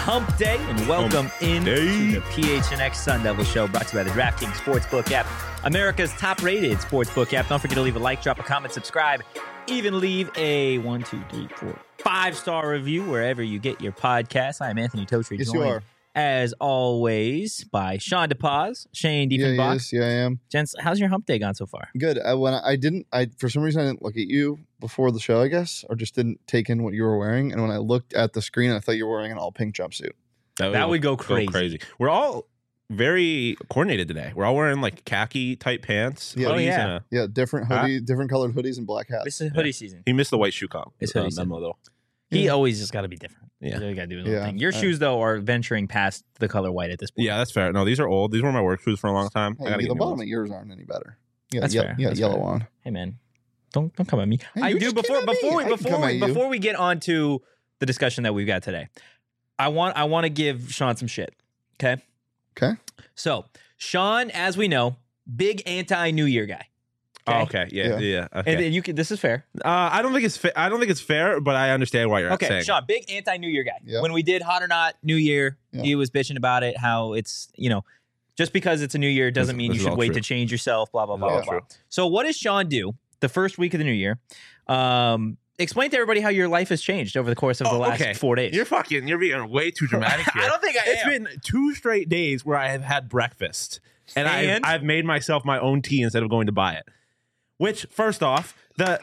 Hump Day, and welcome into the PHNX Sun Devil Show, brought to you by the DraftKings Sportsbook app, America's top-rated sportsbook app. Don't forget to leave a like, drop a comment, subscribe, even leave a 1, 2, 3, 4, 5-star review wherever you get your podcasts. I am Anthony Totri, Yes, you are. as always, by Sean DePaz, Shane Diefenbach. Yeah, I am. Gents, how's your hump day gone so far? Good. For some reason I didn't look at you before the show, I guess, or just didn't take in what you were wearing. And when I looked at the screen, I thought you were wearing an all pink jumpsuit. That would go crazy. We're all very coordinated today. We're all wearing like khaki type pants. Yeah. hoodies, Yeah. and a- Yeah, different hoodie, different colored hoodies and black hats. This is hoodie season. He missed the white shoe comp. It's hoodie memo though. He always just got to be different. Yeah. You got to do his own Yeah. thing. Your shoes, though, are venturing past the color white at this point. Yeah, that's fair. No, these are old. These were my work shoes for a long time. I Hey, gotta the get new bottom ones. of yours aren't any better. Yeah, That's fair. Yeah, That's yellow fair. on. Hey, man, don't come at me. Hey, I you do just came at me. I can come at you. before we get on to the discussion that we've got today. I want to give Sean some shit. Okay. Okay. So Sean, as we know, big anti-New Year guy. Oh, okay. Yeah. Yeah. And Okay. then you can. This is fair. I don't think it's fair, but I understand why you're Okay, saying. Sean, big anti-New Year guy. Yeah. When we did Hot or Not New Year, Yeah. he was bitching about it, how it's, just because it's a new year doesn't mean you this is should all wait true. to change yourself, blah, blah, This blah, is blah, all blah. true. So what does Sean do the first week of the new year? Explain to everybody how your life has changed over the course of the last 4 days. You're being way too dramatic here. I don't think I It's am. been 2 straight days where I have had breakfast. And And? I've made myself my own tea instead of going to buy it. Which, first off, the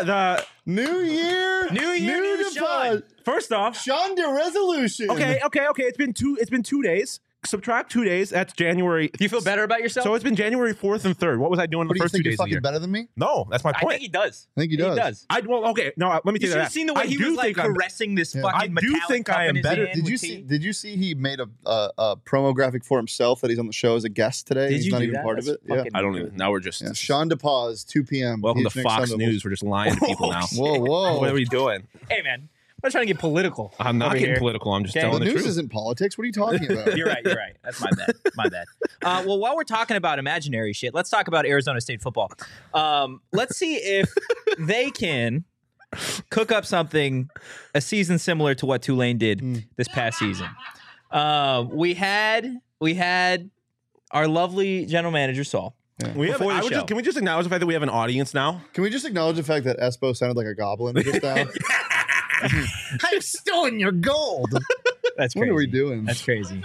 New year, new Sean. first off, Sean de resolution. okay. It's been 2 days. Subtract 2 days. That's January. Do you feel better about yourself? So it's been January 4th and 3rd. What was I doing What the do you first 2 think? You're days of the fucking year? better than me? No, that's my I point. think he does. I think he does. Okay. No, let me You tell you should have that. seen the way I he do was like think I'm- caressing this Yeah. fucking I do metallic think cup I in am his better. hand with tea. Did you see he made a promo graphic for himself that he's on the show as a guest today? Did He's you not do even that? part That's of it. Yeah. fucking- I don't even. Now we're just. Yeah. Sean DePaz, 2 p.m. Welcome to PHNX Fox Sun News. We're just lying to people now. Whoa. What are we doing? Hey, man. I'm not trying to get political. I'm not over getting here. political. I'm just Okay. telling The the news truth. isn't politics. What are you talking about? You're right. That's my bad. My bad. Well, while we're talking about imaginary shit, let's talk about Arizona State football. Let's see if they can cook up a season similar to what Tulane did this past season. We had our lovely general manager, Saul. Before the show. Can we just acknowledge the fact that we have an audience now? Can we just acknowledge the fact that Espo sounded like a goblin just now? I've stolen your gold. That's What crazy. are we doing? That's crazy.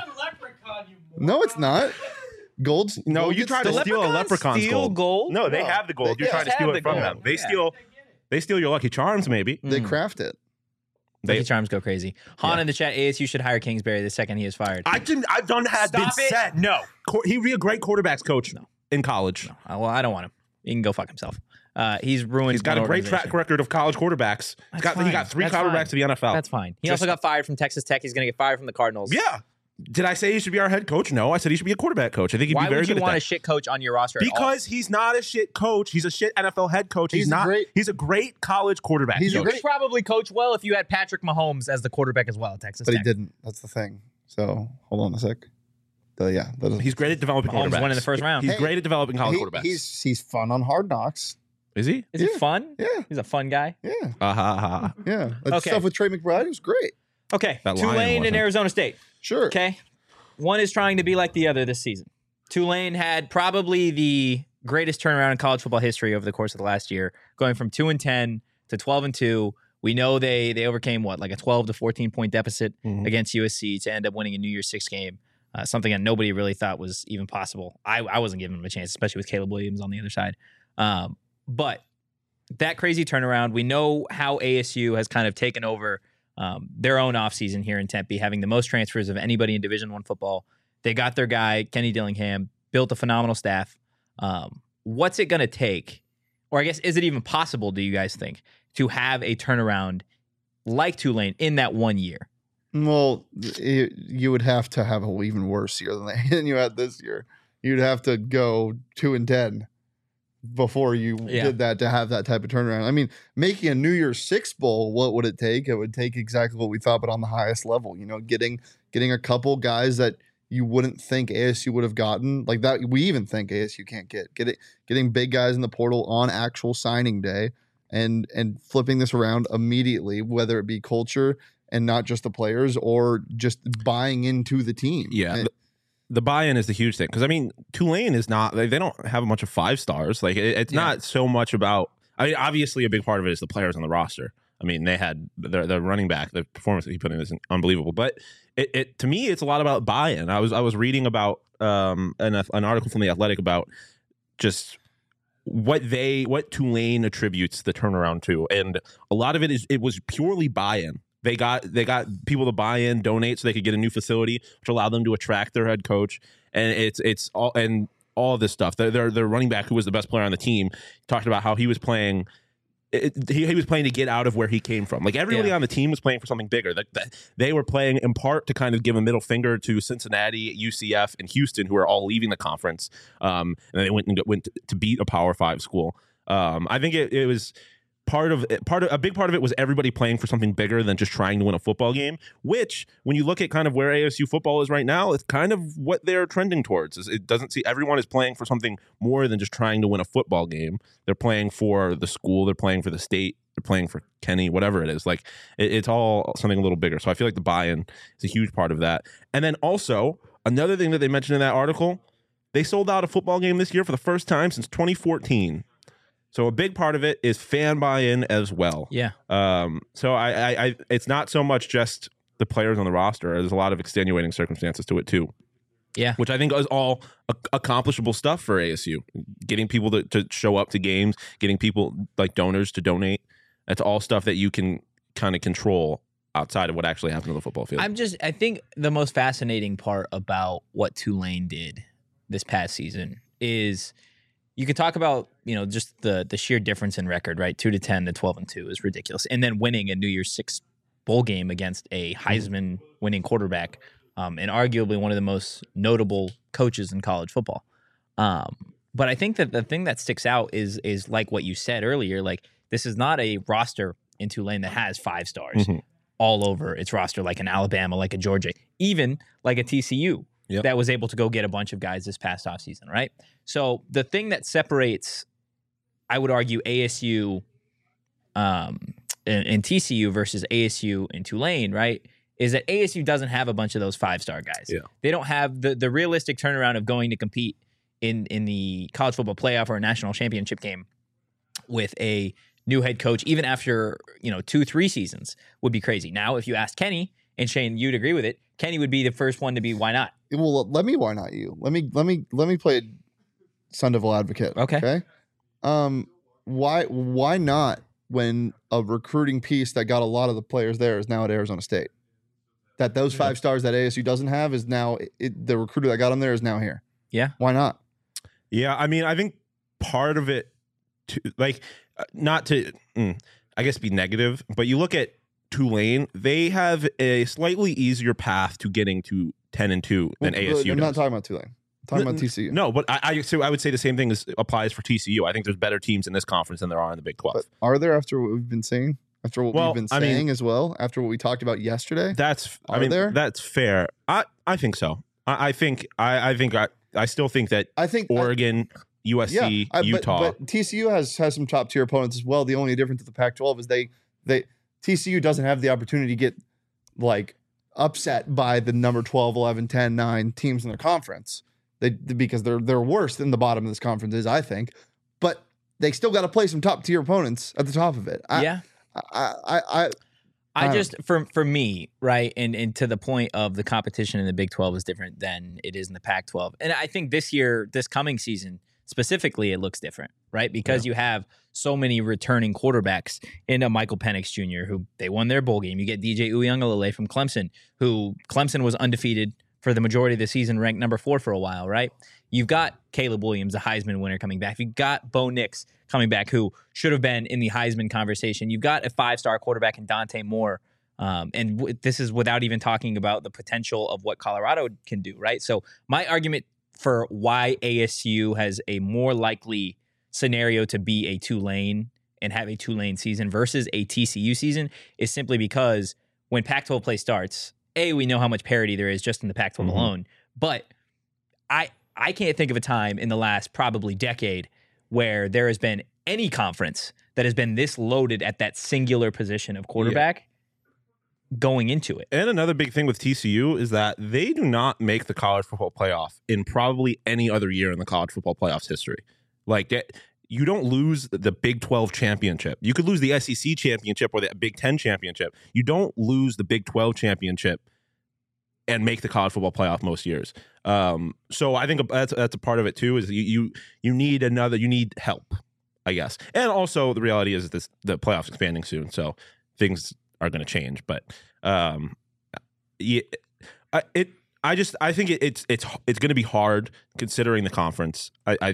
No, it's not. Gold's No, gold you gets tried to stolen. steal a leprechaun's steal gold? No, they No. have the gold. They You're trying to have steal the it from gold. them. Yeah. They steal your Lucky Charms, maybe. They craft it. Lucky Charms go crazy. Han in the chat, ASU should hire Kingsbury the second he is fired. I've been been said. No. He'd be a great quarterbacks coach in college. Well, I don't want him. He can go fuck himself. He's ruined. He's got a one great organization. track record of college quarterbacks. He got fine. 3 That's quarterbacks fine. to the NFL. That's fine. He Just- also got fired from Texas Tech. He's going to get fired from the Cardinals. Yeah. Did I say he should be our head coach? No, I said he should be a quarterback coach. I think he'd Why be very would you good want at a that. shit coach on your roster? Because he's not a shit coach. He's a shit NFL head coach. He's He's a great college quarterback. He's a you coach. could probably coach well if you had Patrick Mahomes as the quarterback as well at Texas But he Tech. didn't. That's the thing. So hold on a sec. Yeah, that is, He's great at developing Mahomes quarterbacks. won in the first round. He's Hey, great at developing college quarterbacks. he's fun on Hard Knocks. Is he? Is it fun? Yeah. He's a fun guy. Yeah, Uh-huh. yeah. That Okay. stuff with Trey McBride was great. Okay. That lion Tulane and wasn't. Arizona State. Sure. Okay. One is trying to be like the other this season. Tulane had probably the greatest turnaround in college football history over the course of the last year, going from 2-10 to 12-2. We know they overcame like a 12 to 14 point deficit against USC to end up winning a New Year's Six game. Something that nobody really thought was even possible. I wasn't giving them a chance, especially with Caleb Williams on the other side. But that crazy turnaround, we know how ASU has kind of taken over their own offseason here in Tempe, having the most transfers of anybody in Division I football. They got their guy, Kenny Dillingham, built a phenomenal staff. What's it going to take, or I guess, is it even possible, do you guys think, to have a turnaround like Tulane in that 1 year? Well, you would have to have an even worse year than you had this year. You'd have to go 2-10 before you did that to have that type of turnaround. I mean, making a New Year's Six bowl, what would it take? It would take exactly what we thought, but on the highest level. You know, getting a couple guys that you wouldn't think ASU would have gotten, like that. We even think ASU can't getting big guys in the portal on actual signing day, and flipping this around immediately, whether it be culture, and not just the players or just buying into the team. Yeah. The buy-in is the huge thing. Because, I mean, Tulane is not, they don't have a bunch of 5 stars. Like, it's not so much about, I mean, obviously a big part of it is the players on the roster. I mean, they had their running back, the performance that he put in is unbelievable. But it to me, it's a lot about buy-in. I was reading about an article from The Athletic about just what Tulane attributes the turnaround to. And a lot of it was purely buy-in. They got people to buy in, donate so they could get a new facility, which allowed them to attract their head coach. And it's all of this stuff. Their running back, who was the best player on the team, talked about how he was playing. He was playing to get out of where he came from. Like, everybody on the team was playing for something bigger. They were playing in part to kind of give a middle finger to Cincinnati, UCF, and Houston, who are all leaving the conference. And they went to beat a Power 5 school. I think it was a big part of it was everybody playing for something bigger than just trying to win a football game, which, when you look at kind of where ASU football is right now, it's kind of what they're trending towards. It doesn't see everyone is playing for something more than just trying to win a football game. They're playing for the school, they're playing for the state, they're playing for Kenny, whatever it is. Like, it's all something a little bigger. So I feel like the buy-in is a huge part of that. And then also, another thing that they mentioned in that article, they sold out a football game this year for the first time since 2014. So a big part of it is fan buy-in as well. Yeah. So I it's not so much just the players on the roster. There's a lot of extenuating circumstances to it too. Yeah. Which I think is all accomplishable stuff for ASU. Getting people to show up to games, getting people like donors to donate. That's all stuff that you can kind of control outside of what actually happened on the football field. I think the most fascinating part about what Tulane did this past season is, you could talk about, just the sheer difference in record, right? 2-10 to 12-2 is ridiculous. And then winning a New Year's Six bowl game against a Heisman winning quarterback, and arguably one of the most notable coaches in college football. But I think that the thing that sticks out is like what you said earlier, like, this is not a roster in Tulane that has 5 stars all over its roster, like an Alabama, like a Georgia, even like a TCU. Yep. That was able to go get a bunch of guys this past offseason, right? So the thing that separates, I would argue, ASU and TCU versus ASU and Tulane, right, is that ASU doesn't have a bunch of those 5-star guys. Yeah. They don't have the realistic turnaround of going to compete in the college football playoff or a national championship game with a new head coach, even after 2-3 seasons, would be crazy. Now, if you asked Kenny, and Shane, you'd agree with it, Kenny would be the first one to be, why not? Well, why not you? Let me play Sun Devil advocate. Okay. Why not, when a recruiting piece that got a lot of the players there is now at Arizona State? That those 5 stars that ASU doesn't have is now the recruiter that got them there is now here. Yeah. Why not? Yeah, I mean, I think part of it, not to, I guess, be negative, but you look at Tulane, they have a slightly easier path to getting to 10-2 than ASU. I'm not talking about Tulane. I'm talking about TCU. No, but I would say the same thing applies for TCU. I think there's better teams in this conference than there are in the Big 12. But are there, after what we've been saying? After what we've been saying as well? After what we talked about yesterday? That's fair. I think so. I still think that Oregon, USC, Utah. But TCU has some top tier opponents as well. The only difference with the Pac-12 is TCU doesn't have the opportunity to get upset by the number 12, 11, 10, 9 teams in their conference. Because they're worse than the bottom of this conference is, I think. But they still got to play some top tier opponents at the top of it. For me, right, and to the point of the competition in the Big 12 is different than it is in the Pac-12. And I think this coming season specifically, it looks different, right? Because you have so many returning quarterbacks in Michael Penix Jr., who they won their bowl game. You get DJ Uiagalelei from Clemson, who Clemson was undefeated for the majority of the season, ranked number 4 for a while, right? You've got Caleb Williams, a Heisman winner, coming back. You've got Bo Nix coming back, who should have been in the Heisman conversation. You've got a 5-star quarterback in Dante Moore. This is without even talking about the potential of what Colorado can do, right? So my argument for why ASU has a more likely scenario to be a Tulane and have a Tulane season versus a TCU season is simply because when Pac-12 play starts, we know how much parity there is just in the Pac-12 alone. But I can't think of a time in the last probably decade where there has been any conference that has been this loaded at that singular position of quarterback going into it. And another big thing with TCU is that they do not make the college football playoff in probably any other year in the college football playoff's history. Like that, you don't lose the Big 12 championship. You could lose the SEC championship or the Big 10 championship. You don't lose the Big 12 championship and make the college football playoff most years. So I think that's a part of it too. Is you need you need help, I guess. And also the reality is that the playoffs expanding soon, so things are going to change. But I think it's going to be hard considering the conference.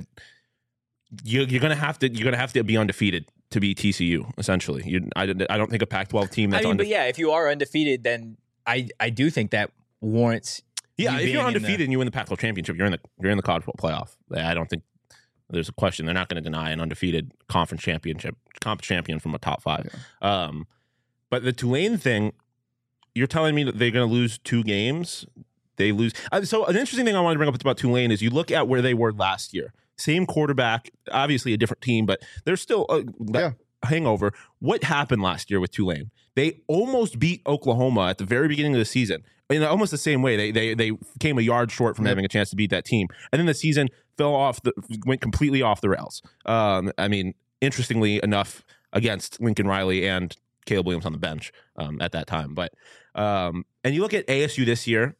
You're going to have to be undefeated to be TCU essentially. I don't think a Pac-12 team that's but yeah, if you are undefeated, then I do think that warrants. Yeah, if you're undefeated and you win the Pac-12 championship, you're in the college football playoff. I don't think there's a question. They're not going to deny an undefeated conference champion from a top 5. Yeah. But the Tulane thing, you're telling me that they're going to lose 2 games. They lose. So an interesting thing I wanted to bring up about Tulane is you look at where they were last year. Same quarterback, obviously a different team, but there's still a hangover. What happened last year with Tulane? They almost beat Oklahoma at the very beginning of the season in almost the same way. They came a yard short from having a chance to beat that team, and then the season went completely off the rails. I mean, interestingly enough, against Lincoln Riley and Caleb Williams on the bench at that time. But and you look at ASU this year.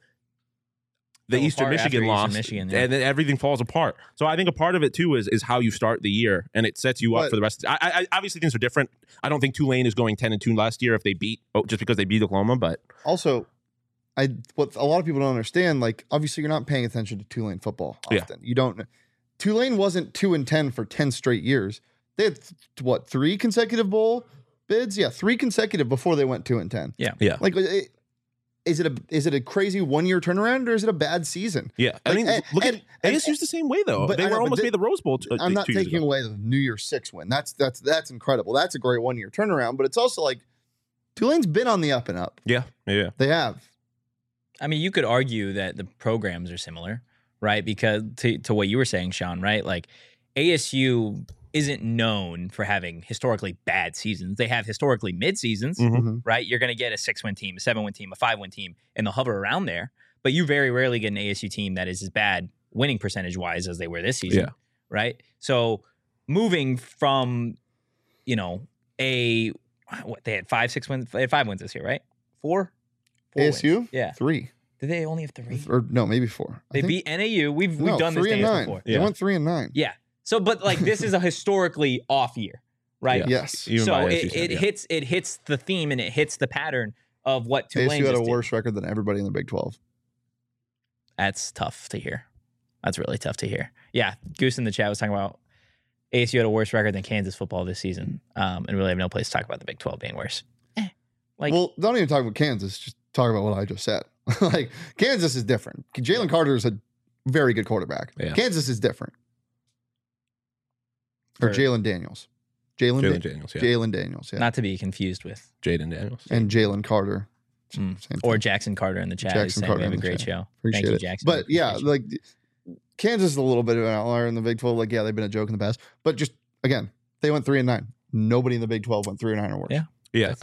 The Eastern Michigan lost, and then everything falls apart. So I think a part of it too is how you start the year, and it sets you up for the rest. I obviously things are different. I don't think Tulane is going 10-2 last year if they just because they beat Oklahoma. But also, what a lot of people don't understand, like obviously you're not paying attention to Tulane football often. Yeah. You don't. Tulane wasn't 2-10 for 10 straight years. They had 3 consecutive bowl bids? Yeah, 3 consecutive before they went 2-10. Yeah. Like. Is it a crazy 1-year turnaround or is it a bad season? Yeah, I mean, look at ASU's the same way though. They were almost made the Rose Bowl. I'm not taking away the New Year's 6 win. That's incredible. That's a great 1-year turnaround. But it's also like Tulane's been on the up and up. Yeah, they have. I mean, you could argue that the programs are similar, right? Because to what you were saying, Sean, right? Like ASU isn't known for having historically bad seasons. They have historically mid seasons, right? You're going to get a 6-win team, a 7-win team, a 5-win team, and they'll hover around there. But you very rarely get an ASU team that is as bad winning percentage wise as they were this season, right? So moving from, they had 5 wins. They had 5 wins this year, right? 4 ASU, wins. Yeah, 3. Did they only have 3? Or no, maybe 4. They beat NAU. We've done this 3-9 before. They went 3-9. Yeah. So, but like this is a historically off year, right? Yeah. Yes. So it hits the theme and it hits the pattern of what Tulane ASU had a worse record than everybody in the Big 12. That's tough to hear. That's really tough to hear. Yeah, Goose in the chat was talking about ASU had a worse record than Kansas football this season, and really have no place to talk about the Big 12 being worse. Well, don't even talk about Kansas. Just talk about what I just said. Like Kansas is different. Jalen Carter is a very good quarterback. Yeah. Kansas is different. Or Jalen Daniels. Jalen Daniels, yeah. Jalen Daniels, yeah. Not to be confused with Jaden Daniels. And Jalen Carter. Or Jackson Carter in the chat. Jackson Carter. We have a great show. Appreciate Thank you, it. Jackson. But yeah, like Kansas is a little bit of an outlier in the Big 12. Like, yeah, they've been a joke in the past. But just, again, they went 3-9. Nobody in the Big 12 went 3-9 or worse. Yeah. Yeah.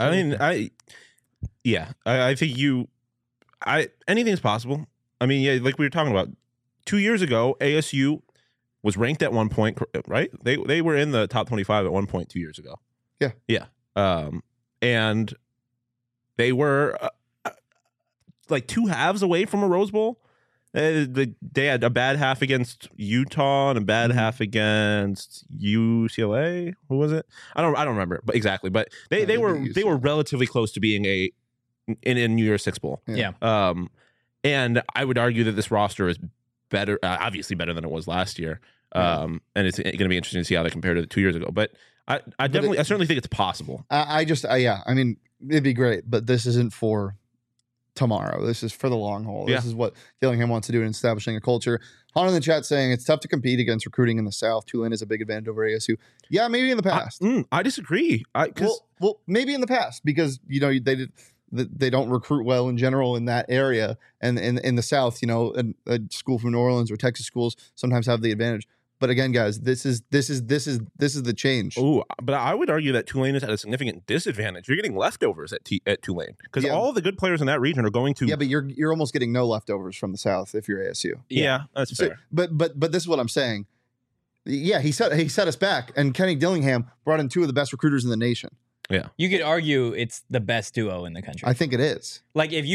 I think anything's possible. I mean, yeah, like we were talking about 2 years ago, ASU was ranked at one point, right? They were in the top 25 at one point 2 years ago. Yeah. Yeah. And they were like 2 halves away from a Rose Bowl. They had a bad half against Utah and a bad half against UCLA. Who was it? I don't remember, but exactly. But they were relatively close to being in a New Year's Six Bowl. Yeah. And I would argue that this roster is better, obviously better than it was last year. And it's going to be interesting to see how they compare to 2 years ago. But I certainly think it's possible. I mean, it'd be great, but this isn't for tomorrow. This is for the long haul. This is what Dillingham wants to do in establishing a culture. Han in the chat saying it's tough to compete against recruiting in the South. Tulane has a big advantage over ASU. Yeah, maybe in the past. I disagree. Well, maybe in the past because they don't recruit well in general in that area, and in the South, a school from New Orleans or Texas schools sometimes have the advantage. But again, guys, this is the change. Oh, but I would argue that Tulane is at a significant disadvantage. You're getting leftovers at Tulane because all the good players in that region are going to. Yeah, but you're almost getting no leftovers from the South if you're ASU. Yeah, that's fair. But this is what I'm saying. Yeah, he set us back, and Kenny Dillingham brought in two of the best recruiters in the nation. Yeah, you could argue it's the best duo in the country. I think it is. Like and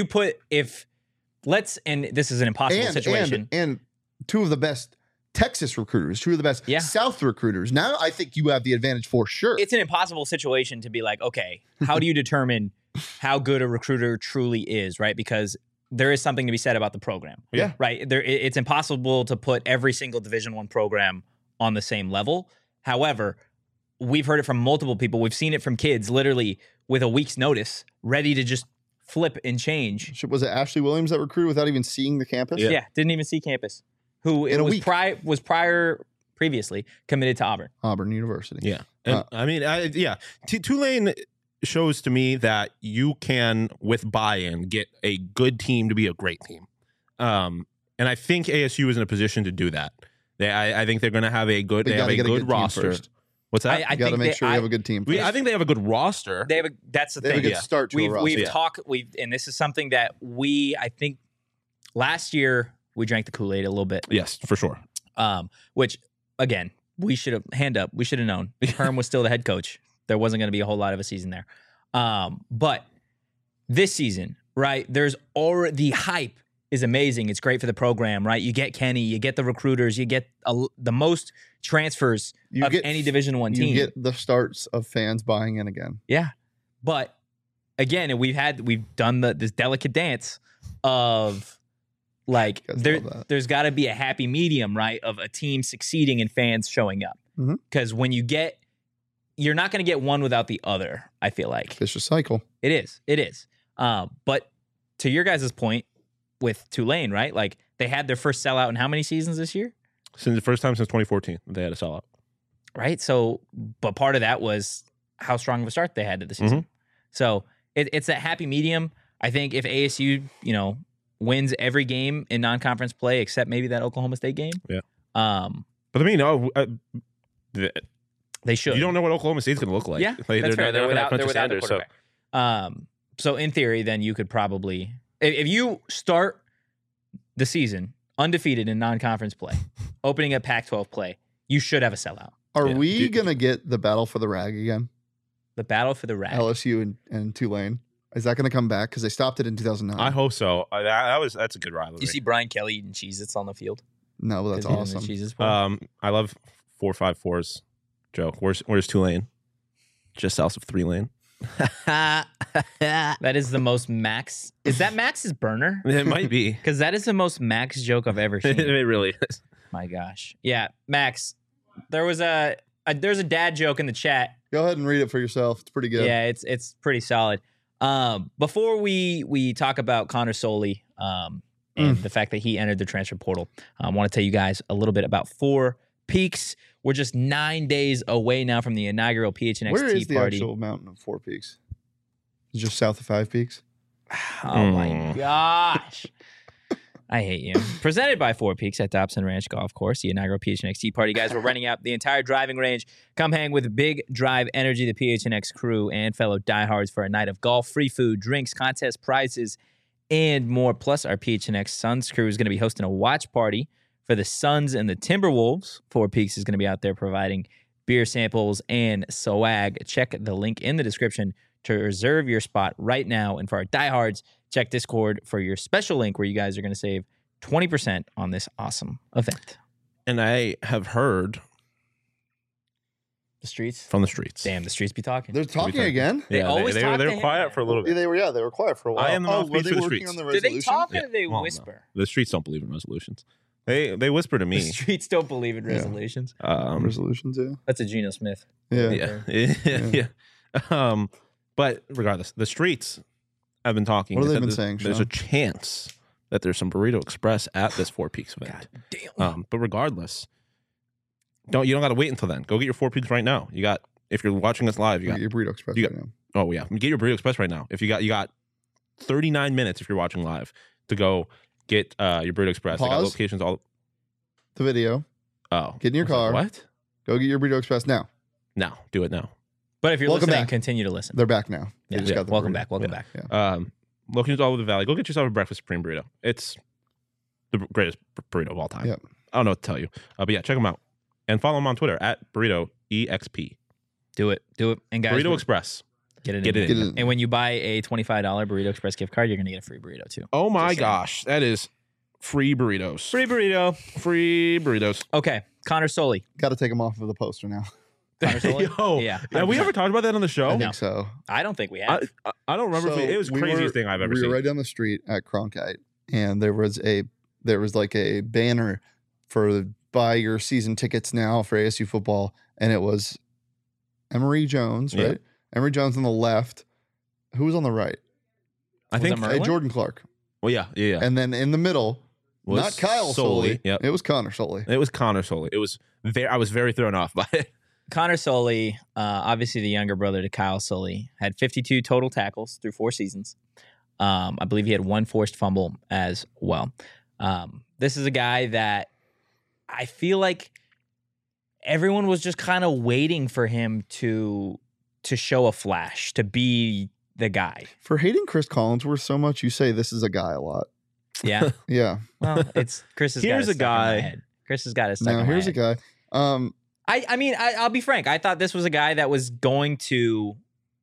this is an impossible situation, and two of the best Texas recruiters, two of the best South recruiters. Now I think you have the advantage for sure. It's an impossible situation to be like, okay, how do you determine how good a recruiter truly is, right? Because there is something to be said about the program. Yeah. Right. It's impossible to put every single Division I program on the same level. However, we've heard it from multiple people. We've seen it from kids literally with a week's notice, ready to just flip and change. Was it Ashley Williams that recruited without even seeing the campus? Yeah, didn't even see campus. Who was previously committed to Auburn University. Yeah. And Tulane shows to me that you can, with buy-in, get a good team to be a great team. And I think ASU is in a position to do that. I think they're going to have a good roster. What's that? You got to make sure you have a good team. I think they have a good roster. That's the thing. They have a good start to a roster. And this is something that I think last year we drank the Kool-Aid a little bit. Yes, for sure. Which again, we should have known. Herm was still the head coach. There wasn't going to be a whole lot of a season there. But this season, right? There's already the hype is amazing. It's great for the program, right? You get Kenny, you get the recruiters, you get the most transfers of any Division I team. You get the starts of fans buying in again. Yeah, but again, we've done this delicate dance of like there's got to be a happy medium, right? Of a team succeeding and fans showing up. Because when you're not going to get one without the other. I feel like vicious cycle. It is. But to your guys' point with Tulane, right? Like they had their first sellout in how many seasons this year? Since the first time since 2014, they had a sellout. Right. So, but part of that was how strong of a start they had to the season. So it's that happy medium. I think if ASU, wins every game in non-conference play except maybe that Oklahoma State game. Yeah. But I mean, they should. You don't know what Oklahoma State's going to look like. Yeah, like, that's fair. They're without Sanders, the quarterback. So in theory, then you could probably, if you start the season undefeated in non-conference play, opening a Pac-12 play, you should have a sellout. Are we going to get the battle for the rag again? The battle for the rag. LSU and Tulane. Is that going to come back? Because they stopped it in 2009. I hope so. That's a good rivalry. You see Brian Kelly eating Cheez-Its on the field? No, well, that's awesome. I love 4-5-4's joke. Where's Tulane? Just south of 3 Lane. That is the most Max. Is that Max's burner? It might be. Because that is the most Max joke I've ever seen. It really is. My gosh. Yeah, Max. There's a dad joke in the chat. Go ahead and read it for yourself. It's pretty good. Yeah, it's pretty solid. Before we talk about Connor Soley and the fact that he entered the transfer portal, I want to tell you guys a little bit about Four Peaks. We're just 9 days away now from the inaugural PHNX Tea Party. Where is the actual mountain of Four Peaks? It's just south of Five Peaks. Oh my gosh. I hate you. Presented by Four Peaks at Dobson Ranch Golf Course, the inaugural PHNX Tea Party. Guys, we're renting out the entire driving range. Come hang with Big Drive Energy, the PHNX crew, and fellow diehards for a night of golf, free food, drinks, contest prizes, and more. Plus, our PHNX Suns crew is going to be hosting a watch party for the Suns and the Timberwolves. Four Peaks is going to be out there providing beer samples and swag. Check the link in the description to reserve your spot right now. And for our diehards, check Discord for your special link where you guys are going to save 20% on this awesome event. And I have heard the streets from the streets. Damn, the streets be talking. They're talking again. They always talk. They were quiet for a little bit. They were quiet for a while. I am the mouthpiece for the streets. Do they talk or do they whisper? No. The streets don't believe in resolutions. They whisper to me. The streets don't believe in resolutions. Resolutions, yeah. That's a Geno Smith. Yeah. But regardless, the streets have been talking. What have they been saying, There's a chance that there's some Burrito Express at this Four Peaks event. God damn. But regardless, you don't got to wait until then. Go get your Four Peaks right now. You got, if you're watching us live, you got your Burrito Express right now. Oh yeah, get your Burrito Express right now. If you got 39 minutes if you're watching live to go get your Burrito Express. Pause. I got locations all. The video. Oh, Get in your car. What? Go get your Burrito Express now. No, do it now. But if you're Welcome listening, back. continue to listen. They're back now. They just got the welcome burrito. back. Welcome back. Yeah. Locations all over the valley. Go get yourself a breakfast supreme burrito. It's the greatest burrito of all time. Yep. I don't know what to tell you. But yeah, check them out. And follow them on Twitter at Burrito EXP. Do it. And guys, Burrito Express. Get it Get in. it Get in. it. And when you buy a $25 Burrito Express gift card, you're going to get a free burrito too. Oh my Just saying. gosh. That is free burritos. Free burrito. Free burritos. Okay. Connor Soley. Got to take them off of the poster now. Connor Soley? Yo, Yeah. have we ever talked about that on the show? I think so. I don't think we have. I don't remember. So if it was the we craziest were- thing I've ever we seen. were right down the street at Cronkite, and there was like a banner for buy your season tickets now for ASU football, and it was Emory Jones, Yeah. right? Emory Jones on the left. Who was on the right? I Was think. it Merlin? Jordan Clark. Well, yeah. And then in the middle, Was not Kyle Soley, Soley. yep. It was Connor Soley. It was Connor Soley. It was I was very thrown off by it. Connor Soley, obviously the younger brother to Kyle Soley, had 52 total tackles through 4 seasons. I believe he had 1 forced fumble as well. This is a guy that I feel like everyone was just kind of waiting for him to show a flash, to be the guy. For hating Chris Collinsworth so much, you say this is a guy a lot. Yeah. Yeah. Well, it's Chris has Here's got it a stuck in my guy. head. Chris has got it stuck Now in my here's head. a guy. I mean, I'll be frank. I thought this was a guy that was going to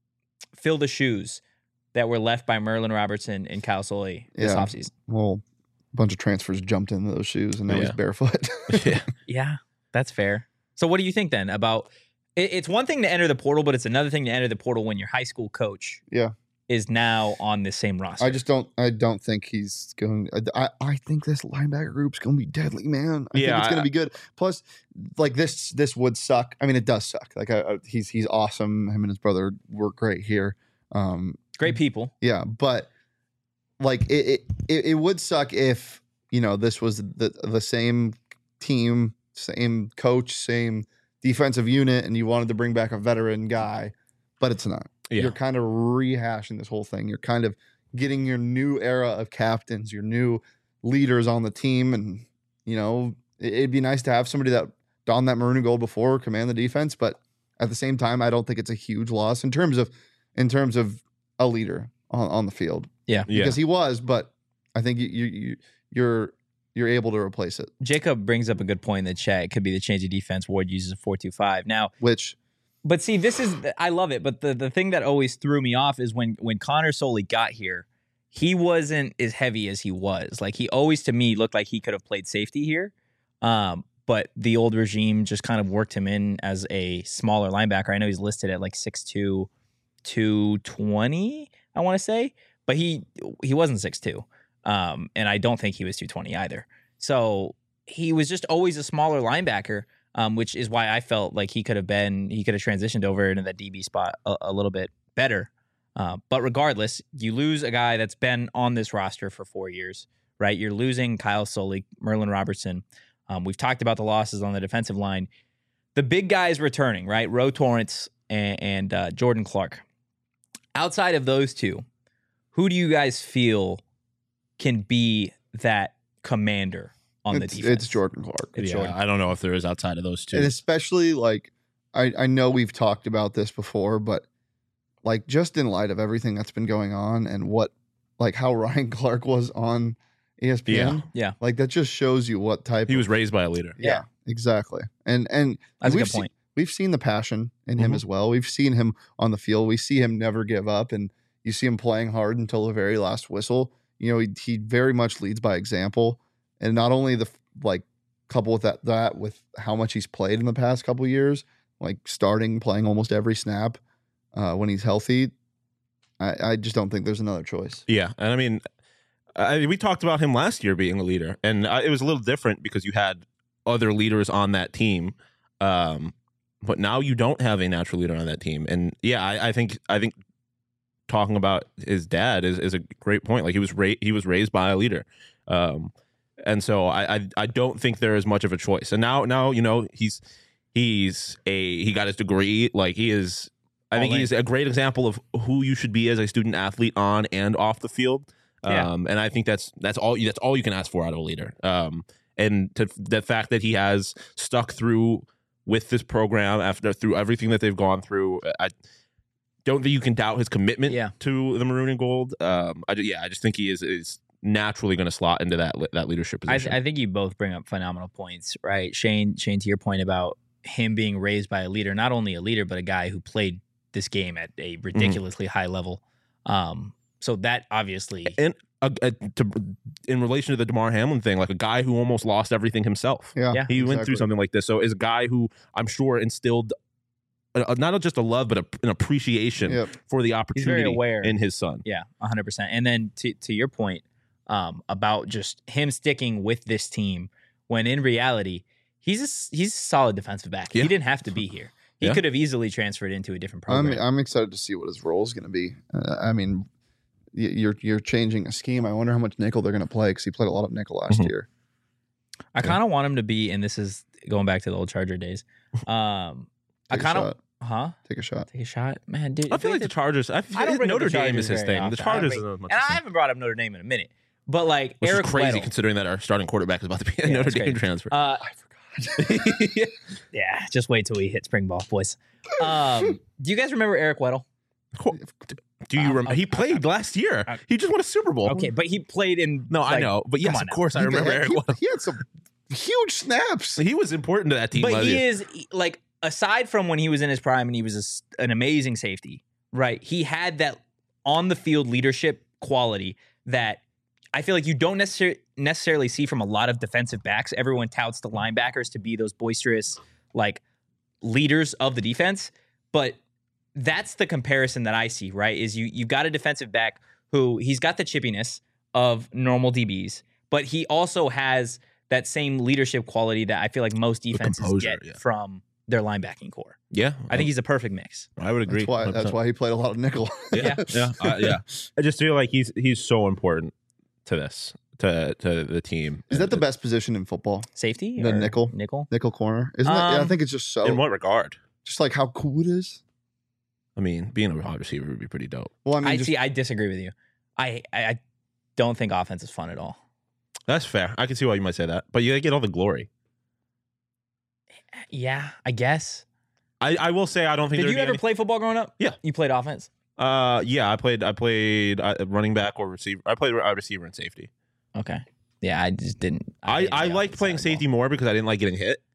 fill the shoes that were left by Merlin Robertson and Kyle Soley this Yeah. offseason. Well, a bunch of transfers jumped into those shoes, and now he's Yeah. barefoot. Yeah. Yeah, that's fair. So what do you think then about it's one thing to enter the portal, but it's another thing to enter the portal when your high school coach Yeah. is now on the same roster. I don't think he's going. I think this linebacker group's going to be deadly, man. I think Yeah, it's going to be good. Plus, like this would suck. I mean, it does suck. Like he's awesome. Him and his brother work great here. Great people. Yeah, but like it would suck if this was the same team, same coach, same defensive unit, and you wanted to bring back a veteran guy, but it's not. Yeah. You're kind of rehashing this whole thing. You're kind of getting your new era of captains, your new leaders on the team, and it'd be nice to have somebody that donned that maroon and gold before, command the defense, but at the same time, I don't think it's a huge loss in terms of a leader on the field. Yeah. Because he was, but I think you're able to replace it. Jacob brings up a good point in the chat. It could be the change of defense. Ward uses a 4-2-5. Now, but see, this is I love it. But the thing that always threw me off is when Connor Soley got here, he wasn't as heavy as he was. Like he always to me looked like he could have played safety here. But the old regime just kind of worked him in as a smaller linebacker. I know he's listed at like 6'2", 220, I want to say, but he wasn't 6'2". And I don't think he was 220 either. So he was just always a smaller linebacker, which is why I felt like he could have transitioned over into that DB spot a little bit better. But regardless, you lose a guy that's been on this roster for 4 years, right? You're losing Kyle Soley, Merlin Robertson. We've talked about the losses on the defensive line. The big guys returning, right? Ro Torrance and Jordan Clark. Outside of those two, who do you guys feel can be that commander on the defense? It's Jordan Clark. Jordan. I don't know if there is outside of those two. And especially like I know we've talked about this before, but like just in light of everything that's been going on and how Ryan Clark was on ESPN, Yeah. like that just shows you what type He was raised by a leader. Yeah, exactly. And That's a we've good point. We've seen the passion in him Mhm. as well. We've seen him on the field. We see him never give up, and you see him playing hard until the very last whistle. He very much leads by example, and not only couple with that with how much he's played in the past couple years, like playing almost every snap when he's healthy. I just don't think there's another choice. Yeah, and I mean, we talked about him last year being a leader, and it was a little different because you had other leaders on that team. But now you don't have a natural leader on that team, and yeah, I think talking about his dad is a great point. Like he was raised by a leader, and so I don't think there is much of a choice. And now he got his degree. Like he is, I think he's a great example of who you should be as a student athlete on and off the field. Yeah. And I think that's all you can ask for out of a leader. And to the fact that he has stuck through with this program through everything that they've gone through, I don't think you can doubt his commitment to the maroon and gold. I just think he is naturally going to slot into that leadership position. I think you both bring up phenomenal points, right? Shane, to your point about him being raised by a leader, not only a leader, but a guy who played this game at a ridiculously high level. So that obviously... And in relation to the Damar Hamlin thing, like a guy who almost lost everything himself. Yeah, he went through something like this. So is a guy who I'm sure instilled not just a love, but an appreciation for the opportunity in his son. Yeah, 100%. And then to your point about just him sticking with this team, when in reality, he's a solid defensive back. Yeah. He didn't have to be here. He could have easily transferred into a different program. I'm excited to see what his role is going to be. I mean, you're changing a scheme. I wonder how much nickel they're going to play because he played a lot of nickel last year. I kind of want him to be, and this is going back to the old Charger days. Take a shot, man, dude. I feel like the Chargers. I don't Notre Dame is his thing. The Chargers, and I haven't brought up Notre Dame in a minute, but like which Eric is crazy Weddle, considering that our starting quarterback is about to be a Notre Dame transfer. I forgot. Yeah, just wait till we hit spring ball, boys. Do you guys remember Eric Weddle? Do you remember? He played last year. He just won a Super Bowl. Okay, but he played in. No, I know, but yes, of course, I remember Eric Weddle. He had some huge snaps. He was important to that team. But he is like, aside from when he was in his prime and he was an amazing safety, right? He had that on the field leadership quality that I feel like you don't necessarily see from a lot of defensive backs. Everyone touts the linebackers to be those boisterous, like, leaders of the defense, but that's the comparison that I see, right? Is you've got a defensive back who he's got the chippiness of normal DBs, but he also has that same leadership quality that I feel like most defenses get from their linebacking core. Yeah. I think he's a perfect mix. I would agree. That's why he played a lot of nickel. Yeah. I just feel like he's so important to this, to the team. Is that the best position in football? Safety? The nickel corner. Isn't that? Yeah, I think it's just so. In what regard? Just like how cool it is. I mean, being a wide receiver would be pretty dope. Well, I mean, I disagree with you. I don't think offense is fun at all. That's fair. I can see why you might say that, but you get all the glory. Yeah, I guess. I will say I don't think. Did you ever play football growing up? Yeah, you played offense. Yeah, I played running back or receiver. I played receiver and safety. Okay. Yeah, I just didn't. I liked playing safety more because I didn't like getting hit.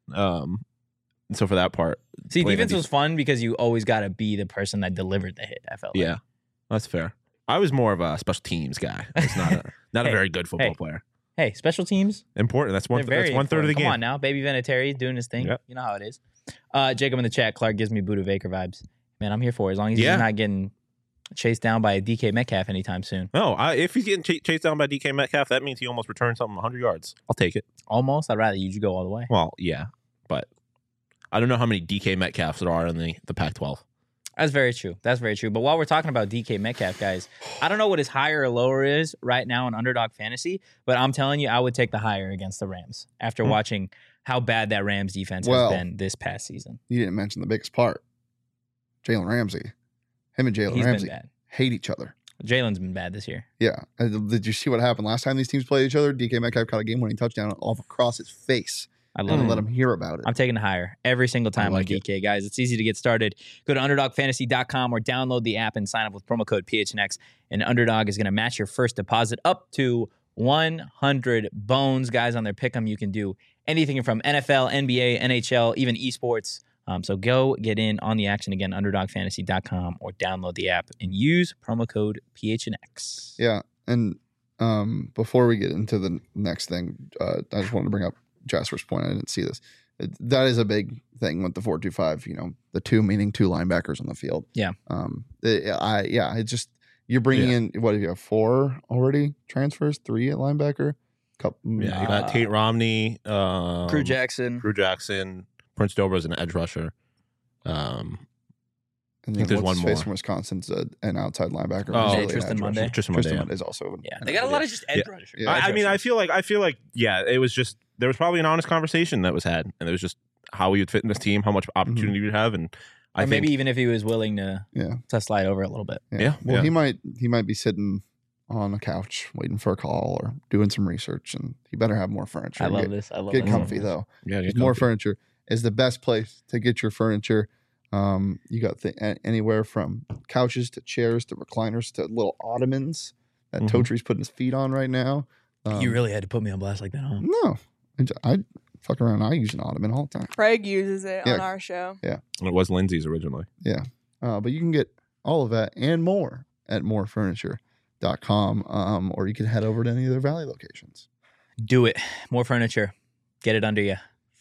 So for that part, see, defense was fun because you always got to be the person that delivered the hit. I felt. Yeah, that's fair. I was more of a special teams guy. I was not a very good football player. Hey, special teams important. That's one third of the game. Come on now, Baby Vinatieri doing his thing. Yep. You know how it is. Jacob in the chat. Clark gives me Buda Baker vibes. Man, I'm here for it. As long as he's not getting chased down by a DK Metcalf anytime soon. No, if he's getting chased down by DK Metcalf, that means he almost returned something 100 yards. I'll take it. Almost. I'd rather you go all the way. Well, yeah, but I don't know how many DK Metcalfs there are in the Pac-12. That's very true. But while we're talking about DK Metcalf, guys, I don't know what his higher or lower is right now in Underdog Fantasy, but I'm telling you, I would take the higher against the Rams after watching how bad that Rams defense has been this past season. You didn't mention the biggest part. Jalen Ramsey. Him and Jalen Ramsey hate each other. Jalen's been bad this year. Yeah. Did you see what happened last time these teams played each other? DK Metcalf caught a game-winning touchdown off across his face. I love it. Let him hear about it. I'm taking it higher every single time on DK, guys. It's easy to get started. Go to UnderdogFantasy.com or download the app and sign up with promo code PHNX. And Underdog is going to match your first deposit up to 100 bones. Guys, on their pick'em, you can do anything from NFL, NBA, NHL, even esports. So go get in on the action again, UnderdogFantasy.com or download the app and use promo code PHNX. Yeah, and before we get into the next thing, I just wanted to bring up Jasper's point. I didn't see this. That is a big thing with the 4-2-5. The two meaning two linebackers on the field. Yeah. It's just you're bringing in what do you have 4 already transfers, 3 at linebacker. You got Tate Romney, Drew Jackson, Prince Dobre's an edge rusher. I think there's one more from Wisconsin's an outside linebacker. Tristan Monday. Tristan Monday is also. Yeah, they got a lot of just edge rushers. Yeah. I feel like it was just there was probably an honest conversation that was had, and it was just how he would fit in this team, how much opportunity he'd have, and I think maybe even if he was willing to slide over a little bit. Yeah. Well, he might be sitting on a couch waiting for a call or doing some research, and you better have more furniture. I love this. Get comfy though. Yeah, more furniture is the best place to get your furniture. You got anywhere from couches to chairs to recliners to little ottomans that Totri's putting his feet on right now. You really had to put me on blast like that, huh? No, I fuck around. I use an ottoman all the time. Craig uses it on our show. Yeah, it was Lindsay's originally. Yeah, but you can get all of that and more at morefurniture.com, or you can head over to any of their Valley locations. Do it. More furniture. Get it under you.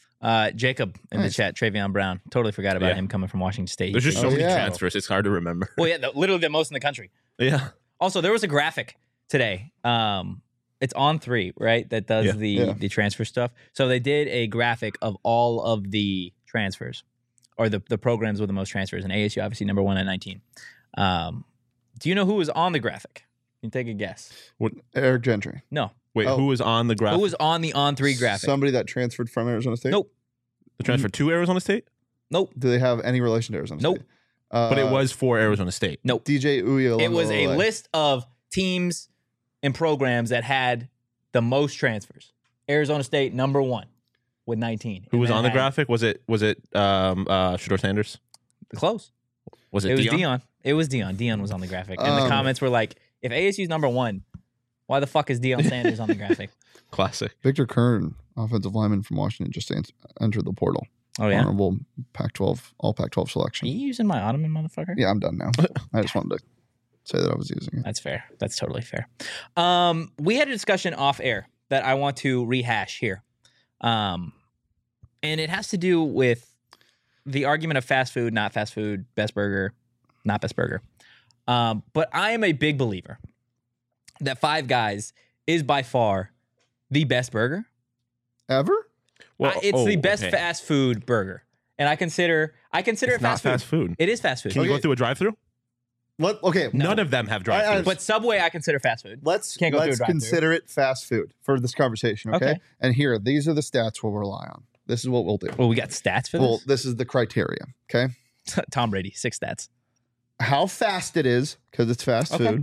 Jacob in the chat, Travion Brown. Totally forgot about him coming from Washington State. There's just so many transfers. It's hard to remember. Well, yeah, literally the most in the country. Yeah. Also, there was a graphic today. It's on 3, right? That does the transfer stuff. So they did a graphic of all of the transfers or the programs with the most transfers. And ASU, obviously, number 1 at 19. Do you know who was on the graphic? You can take a guess. What, Eric Gentry? No. Wait, who was on the graphic? Who was on the On3 graphic? Somebody that transferred from Arizona State? Nope. The transfer to Arizona State? Nope. Do they have any relation to Arizona State? But it was for Arizona State. Nope. DJ Uiagalelei. It was a list of teams and programs that had the most transfers. Arizona State, number 1 with 19. Who was on the graphic? Was it Shedeur Sanders? Close. Was it Deion? It was Deion. Deion was on the graphic. And the comments were like, if ASU's number 1, why the fuck is Deion Sanders on the graphic? Classic. Victor Kern, offensive lineman from Washington, just entered the portal. Oh, yeah? Honorable Pac-12, all Pac-12 selection. Are you using my Ottoman, motherfucker? Yeah, I'm done now. I just wanted to say that I was using it. That's fair. That's totally fair. We had a discussion off air that I want to rehash here. And it has to do with the argument of fast food, not fast food, best burger, not best burger. But I am a big believer that Five Guys is by far the best burger. Ever? Well, it's the best fast food burger. And I consider it fast food. It is fast food. Can you go through a drive-through? None of them have drive-throughs. But Subway I consider fast food. Let's consider it fast food for this conversation, okay? And here, these are the stats we'll rely on. This is what we'll do. Well, we got stats for this? Well, this is the criteria, okay? Tom Brady, 6 stats. How fast it is, because it's fast food.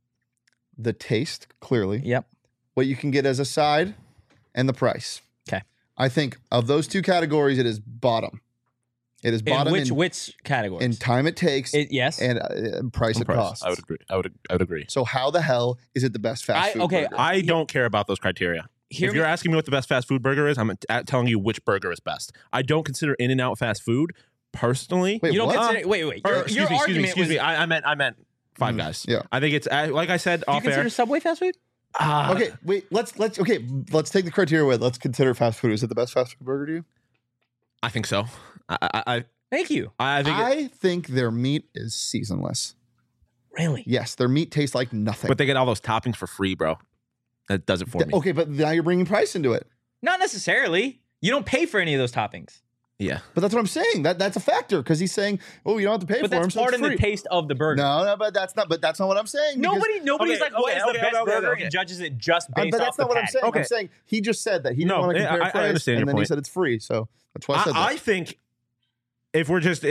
The taste, clearly. Yep. What you can get as a side, and the price. Okay. I think of those 2 categories, it is bottom. It is bottom in which categories? In time it takes. Yes. And price it costs. I would agree. I would agree. So how the hell is it the best fast food burger? I don't care about those criteria. If you're asking me what the best fast food burger is, I'm telling you which burger is best. I don't consider In-N-Out fast food personally. Wait, you don't consider? Wait. Excuse me. I meant Five Guys. Yeah. I think it's like I said off air. Do you consider Subway fast food? Okay, wait. Let's take the criteria away. Let's consider fast food. Is it the best fast food burger to you? I think so. Thank you. I think their meat is seasonless. Really? Yes, their meat tastes like nothing. But they get all those toppings for free, bro. That does it for me. Okay, but now you're bringing price into it. Not necessarily. You don't pay for any of those toppings. Yeah, but that's what I'm saying. That's a factor because he's saying, "Oh, you don't have to pay for them." But that's part of the taste of the burger. No, but that's not. But that's not what I'm saying. Nobody's like, "What is the best burger?" And judges it just based but off that's not what I'm saying. Okay. I'm saying he just said that he didn't want to compare price, I understand and then your he point. said it's free. So that's why I said that. I think if we're just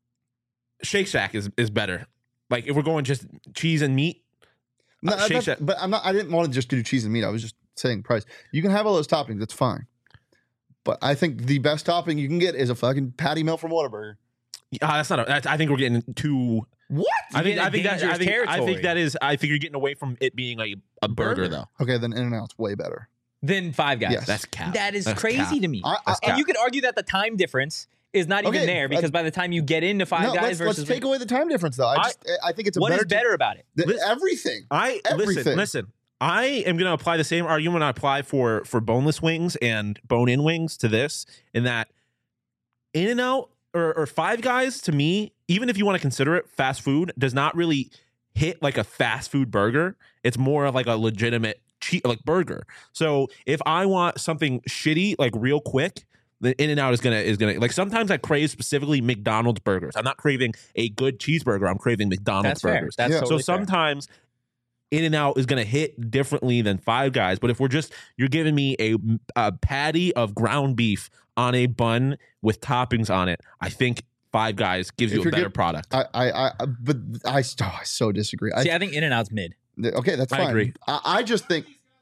Shake Shack is better. Like if we're going just cheese and meat. No, but I'm not. I didn't want to just do cheese and meat. I was just saying price. You can have all those toppings. That's fine. But I think the best topping you can get is a fucking patty melt from Whataburger. That's not. I think we're getting too. What? I think that is. I think you're getting away from it being a burger though. Okay, then In-N-Out's way better than Five Guys. Yes. That's cap. That is That's crazy cap. to me. And you could argue that the time difference is not even there because by the time you get into Five Guys versus let's take away the time difference though. I think it's a what better is better about it? Everything. Listen. I am going to apply the same argument I apply for boneless wings and bone-in wings to this, in that In-N-Out or Five Guys, to me, even if you want to consider it fast food, does not really hit like a fast food burger. It's more of like a legitimate burger. So if I want something shitty, like real quick, the In-N-Out is gonna like, sometimes I crave specifically McDonald's burgers. I'm not craving a good cheeseburger. I'm craving McDonald's burgers. That's totally so sometimes In-N-Out is going to hit differently than Five Guys. But if you're giving me a patty of ground beef on a bun with toppings on it, I think Five Guys gives you a better product. I so disagree. I think In-N-Out's mid. Okay, that's fine. I agree. I just think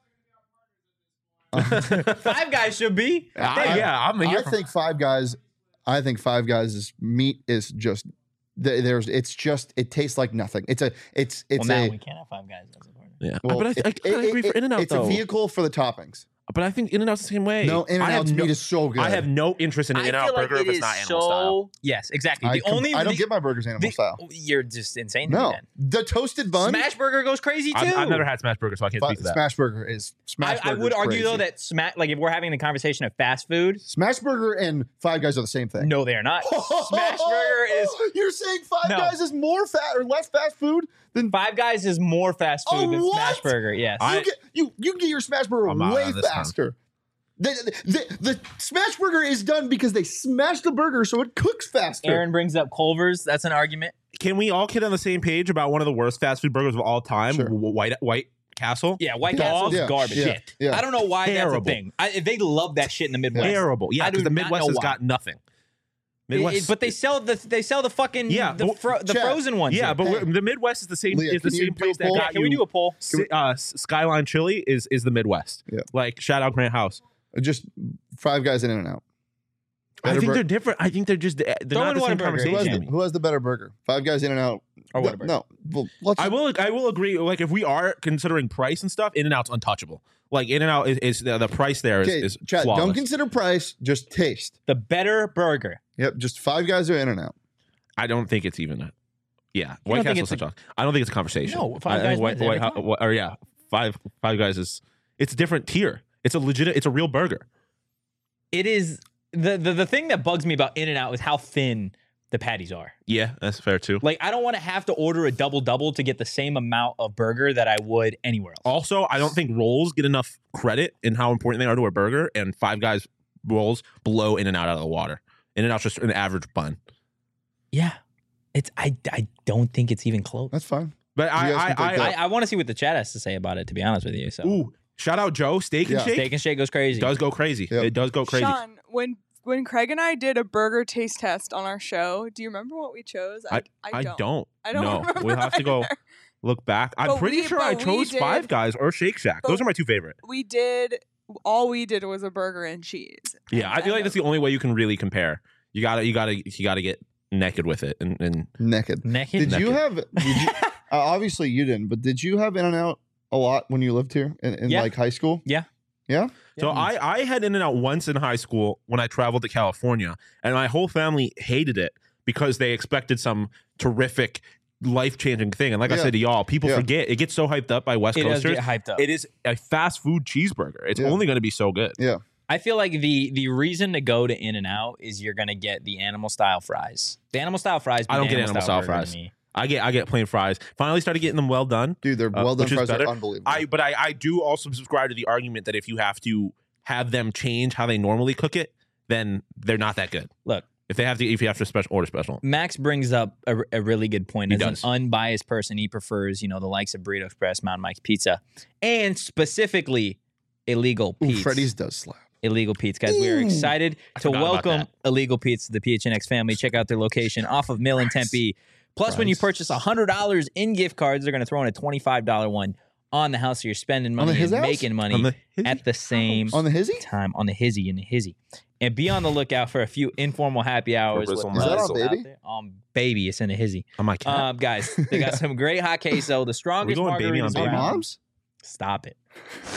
Five Guys should be. I think Five Guys. I think Five Guys' meat is just it tastes like nothing. It's now we can't have Five Guys. Yeah, well, but I agree for In-N-Out. It's a vehicle for the toppings. But I think In-N-Out's the same way. No, In-N-Out's meat is so good. I have no interest in an In-N-Out burger if it's not animal style. Yes, exactly. I don't get my burgers animal style. You're just insane. No, the toasted bun. Smash Burger goes crazy too. I've never had Smash Burger, so I can't speak to that. Smash Burger is Smash Burger. I would argue crazy. though that if we're having the conversation of fast food, Smash Burger and Five Guys are the same thing. No, they are not. Smash Burger is. You're saying Five Guys is more fat or less fast food than Five Guys is more fast food than Smash Burger. Yes, you can get your Smash Burger way faster. The Smash Burger is done because they smash the burger so it cooks faster. Aaron brings up Culver's. That's an argument. Can we all get on the same page about one of the worst fast food burgers of all time? Sure. White Castle? Yeah, White Castle's garbage. Shit. I don't know why Terrible. that's a thing. They love that shit in the Midwest. Terrible. Yeah, because the Midwest has got nothing. Midwest, but they sell the fucking the frozen ones. Yeah, but the Midwest is the same. Leah, is the same place that got Can we do a poll? Skyline Chili is the Midwest. Yeah. Like shout out Grant House. Just Five Guys in and out. I think they're different. I think they're just they're not the same conversation. Who has the better burger? Five Guys in and out or Whataburger? No. Well, I will agree. Like if we are considering price and stuff, In-N-Out's untouchable. Like In-N-Out is the price there is Chad, flawless. don't consider price, just taste. The better burger. Yep, just Five Guys or In and Out. I don't think it's even White Castle's such a. I don't think it's a conversation. No, Five Guys wins every time. Five Guys is it's a different tier. It's a real burger. It is the thing that bugs me about In-N-Out is how thin the patties are. Yeah, that's fair too. Like I don't want to have to order a double to get the same amount of burger that I would anywhere else. Also, I don't think rolls get enough credit in how important they are to a burger, and Five Guys rolls blow In-N-Out out of the water. In-N-Out's just an average bun. Yeah. I don't think it's even close. That's fine. But I want to see what the chat has to say about it, to be honest with you. So ooh, shout out Joe, Steak and Shake. Steak and Shake goes crazy. It does go crazy. Yep. It does go crazy. Sean, when Craig and I did a burger taste test on our show, do you remember what we chose? I don't. I don't know. remember. We'll have to go look back. I'm pretty sure I chose Five Guys or Shake Shack. Those are my two favorite. All we did was a burger and cheese. Yeah, I feel like that's the only way you can really compare. You gotta get naked with it and naked. Did you have? Obviously you didn't, but did you have In-N-Out a lot when you lived here in like high school? Yeah. Yeah. So I had In-N-Out once in high school when I traveled to California, and my whole family hated it because they expected some terrific life-changing thing. And like I said to y'all, people forget it gets so hyped up by West Coasters. It does get hyped up. It is a fast food cheeseburger. It's only going to be so good. Yeah. I feel like the reason to go to In-N-Out is you're going to get the animal style fries. The animal style fries. I don't get animal style fries. I get plain fries. Finally started getting them well done. Dude, they're well done fries are unbelievable. But I do also subscribe to the argument that if you have to have them change how they normally cook it, then they're not that good. Look, if you have to order special. Max brings up a really good point. As an unbiased person, he prefers, the likes of Burrito Express, Mountain Mike's Pizza, and specifically Illegal Pete's. Freddy's does slap. Illegal Pete's, guys. We are excited to welcome Illegal Pete's to the PHNX family. Check out their location off of Mill in Tempe. Plus, when you purchase $100 in gift cards, they're going to throw in a $25 one on the house. So you're spending money and making money at the same on the hizzy time on the hizzy. And be on the lookout for a few informal happy hours. Is that on Baby? Baby, it's in a hizzy. Oh my God. Guys, they got some great hot queso. The strongest margaritas around. Moms? Stop it.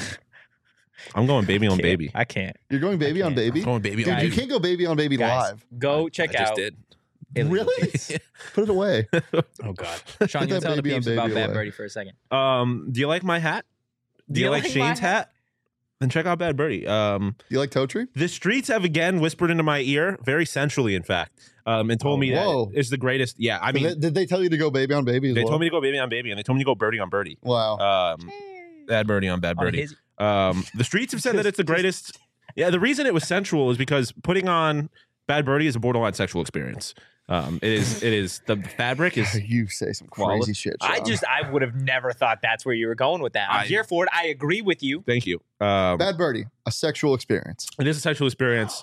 I'm going Baby on Baby. I can't. You're going Baby on Baby? I'm going Baby on Baby. You can't go Baby on Baby live. Go check out. I just did. Really? Put it away. Oh God, Sean, you tell the peeps about Bad Birdie for a second. Do you like my hat? Do you like Shane's hat? Then check out Bad Birdie. Do you like Toe Tree? The streets have again whispered into my ear, very sensually, in fact, and told me that it's the greatest. Yeah, I mean, did they tell you to go Baby on Baby? They told me to go Baby on Baby, and they told me to go Birdie on Birdie. Wow. Bad Birdie on Bad Birdie. The streets have said that it's the greatest. Yeah, the reason it was sensual is because putting on Bad Birdie is a borderline sexual experience. It is the fabric is. You say some crazy shit, Sean. I would have never thought that's where you were going with that. I'm here for it. I agree with you. Thank you. Bad Birdie, a sexual experience. It is a sexual experience.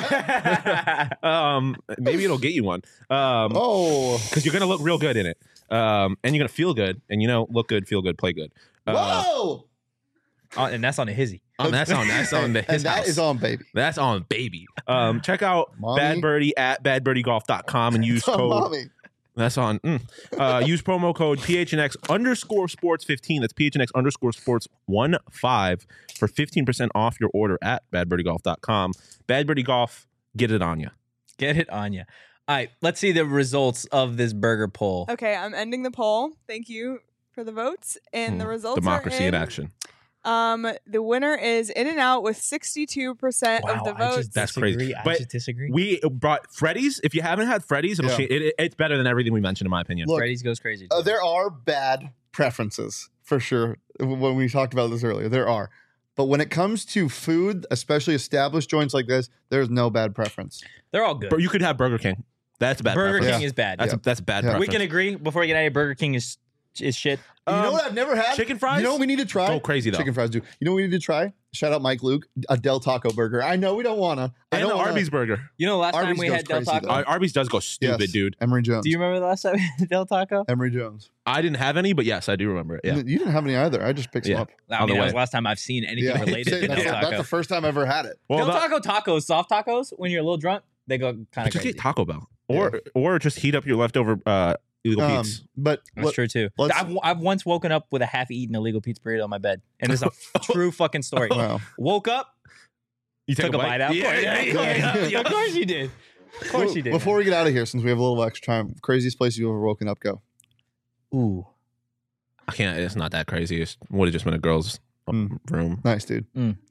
Maybe it'll get you one. Because you're gonna look real good in it, and you're gonna feel good, and look good, feel good, play good. Whoa! And that's on a hizzy. That's on the his and that house. is on baby. That's on baby. Check out Mommy. Bad Birdie at badbirdiegolf.com and use It's on code. mommy. That's on. Use promo code PHNX_sports15. That's PHNX_sports15 for 15% off your order at badbirdiegolf.com. Bad Birdie Golf, get it on you. Get it on you. All right, let's see the results of this burger poll. Okay, I'm ending the poll. Thank you for the votes. And the results Democracy are in action. The winner is In-N-Out with 62% of the votes. That's crazy. I just disagree. We brought Freddy's. If you haven't had Freddy's, it's better than everything we mentioned, in my opinion. Look, Freddy's goes crazy. There are bad preferences, for sure. When we talked about this earlier, there are. But when it comes to food, especially established joints like this, there's no bad preference. They're all good. But you could have Burger King. That's a bad Burger preference. King is bad. That's a bad preference. We can agree before we get out of here, Burger King is shit. You know what I've never had? Chicken fries? You know what we need to try? Go crazy, though. Chicken fries do. You know what we need to try? Shout out Mike Luke, a Del Taco burger. I know we don't want to. And the Arby's burger. You know, last time Arby's we goes had Del crazy, Taco. though. Arby's does go stupid, Yes. dude. Emery Jones. Do you remember the last time we had Del Taco? Emery Jones. I didn't have any, but yes, I do remember it. Yeah. You didn't have any either. I just picked some up. I mean, that was the last time I've seen anything related to Del That's Taco. the first time I ever had it. Well, Del Taco tacos, soft tacos, when you're a little drunk, they go kind of just crazy. get Taco Bell. Or just heat up your leftover illegal pizza. But That's true too. I've once woken up with a half-eaten illegal pizza burrito on my bed, and this is a true fucking story. Wow. Woke up, You took a bite out. Yeah. Of course you did. Of course you did. Before we get out of here, since we have a little extra time, craziest place you've ever woken up, go. Ooh, I can't. It's not that crazy. It would have just been a girl's room. Nice, dude.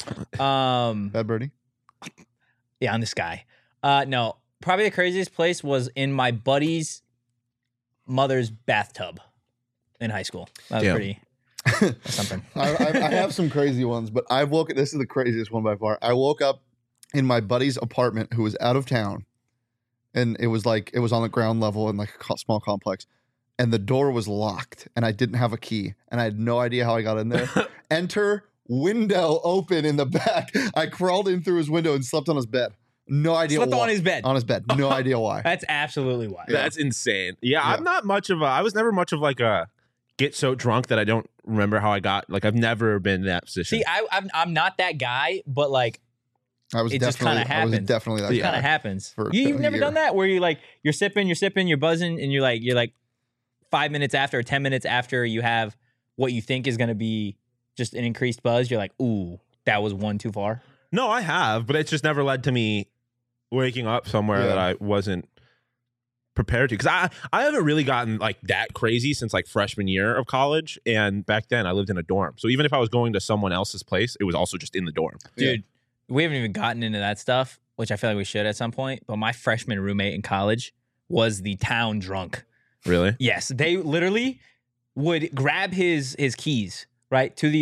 Bad Birdie. Yeah, on the sky. No, probably the craziest place was in my buddy's mother's bathtub in high school. That was pretty something. I have some crazy ones, but this is the craziest one by far. I woke up in my buddy's apartment who was out of town, and it was on the ground level in like a small complex, and the door was locked, and I didn't have a key, and I had no idea how I got in there. Enter window open in the back. I crawled in through his window and slept on his bed. No idea why. Slept on his bed. On his bed. No idea why. That's absolutely why. That's insane. Yeah, I'm not much of I was never much of like a get so drunk that I don't remember how I got. Like I've never been in that position. See, I'm not that guy, but like it just kind of happens. I was definitely that guy. It kind of happens. For You've a never year. done that where you're sipping, you're buzzing, and you're like 5 minutes after or 10 minutes after you have what you think is going to be just an increased buzz. You're like, ooh, that was one too far. No, I have, but it's just never led to me waking up somewhere that I wasn't prepared to. Because I haven't really gotten like that crazy since like freshman year of college. And back then I lived in a dorm. So even if I was going to someone else's place, it was also just in the dorm. Dude, we haven't even gotten into that stuff, which I feel like we should at some point. But my freshman roommate in college was the town drunk. Really? Yes. They literally would grab his keys, right, to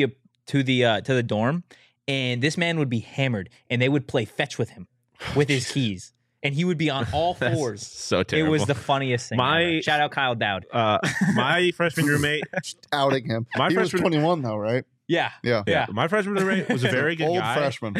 the dorm. And this man would be hammered and they would play fetch with him with his keys. And he would be on all fours. So terrible. It was the funniest thing ever. Shout out Kyle Dowd. My freshman roommate. Outing him. He was 21 though, right? Yeah. My freshman roommate was a very good Old guy. freshman.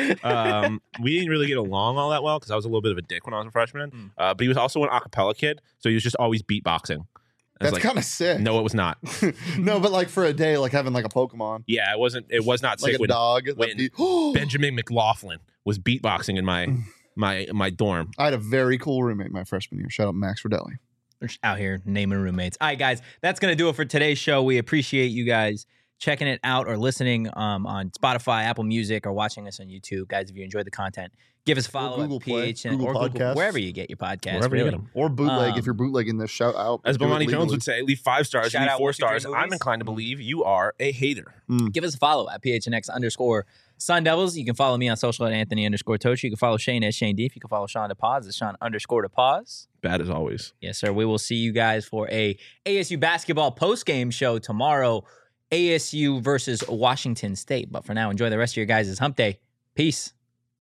We didn't really get along all that well because I was a little bit of a dick when I was a freshman. But he was also an acapella kid. So he was just always beatboxing. That's kind of sick. No, it was not. No, but like for a day, like having like a Pokemon. Yeah, it was not like sick a dog. when Benjamin McLaughlin was beatboxing in my dorm. I had a very cool roommate my freshman year. Shout out Max Rodelli. We're just out here naming roommates. All right, guys, that's going to do it for today's show. We appreciate you guys checking it out or listening on Spotify, Apple Music, or watching us on YouTube. Guys, if you enjoyed the content, give us a follow Google at Play, PHN Google or Podcasts. Google, wherever you get your podcasts. Wherever you get them. Or bootleg. If you're bootlegging this, shout out. As Do it Bomani Jones legally. would say, leave 5 stars, Shout leave out 4 1, 2, 3 stars. I'm movies. inclined to believe you are a hater. Give us a follow at PHNX_Sun Devils. You can follow me on social at Anthony_Tochi. You can follow Shane at Shane Deef. You can follow Sean DePaz at Sean_DePaz. Bad as always. Yes, sir. We will see you guys for a ASU basketball post-game show tomorrow. ASU versus Washington State. But for now, enjoy the rest of your guys' hump day. Peace.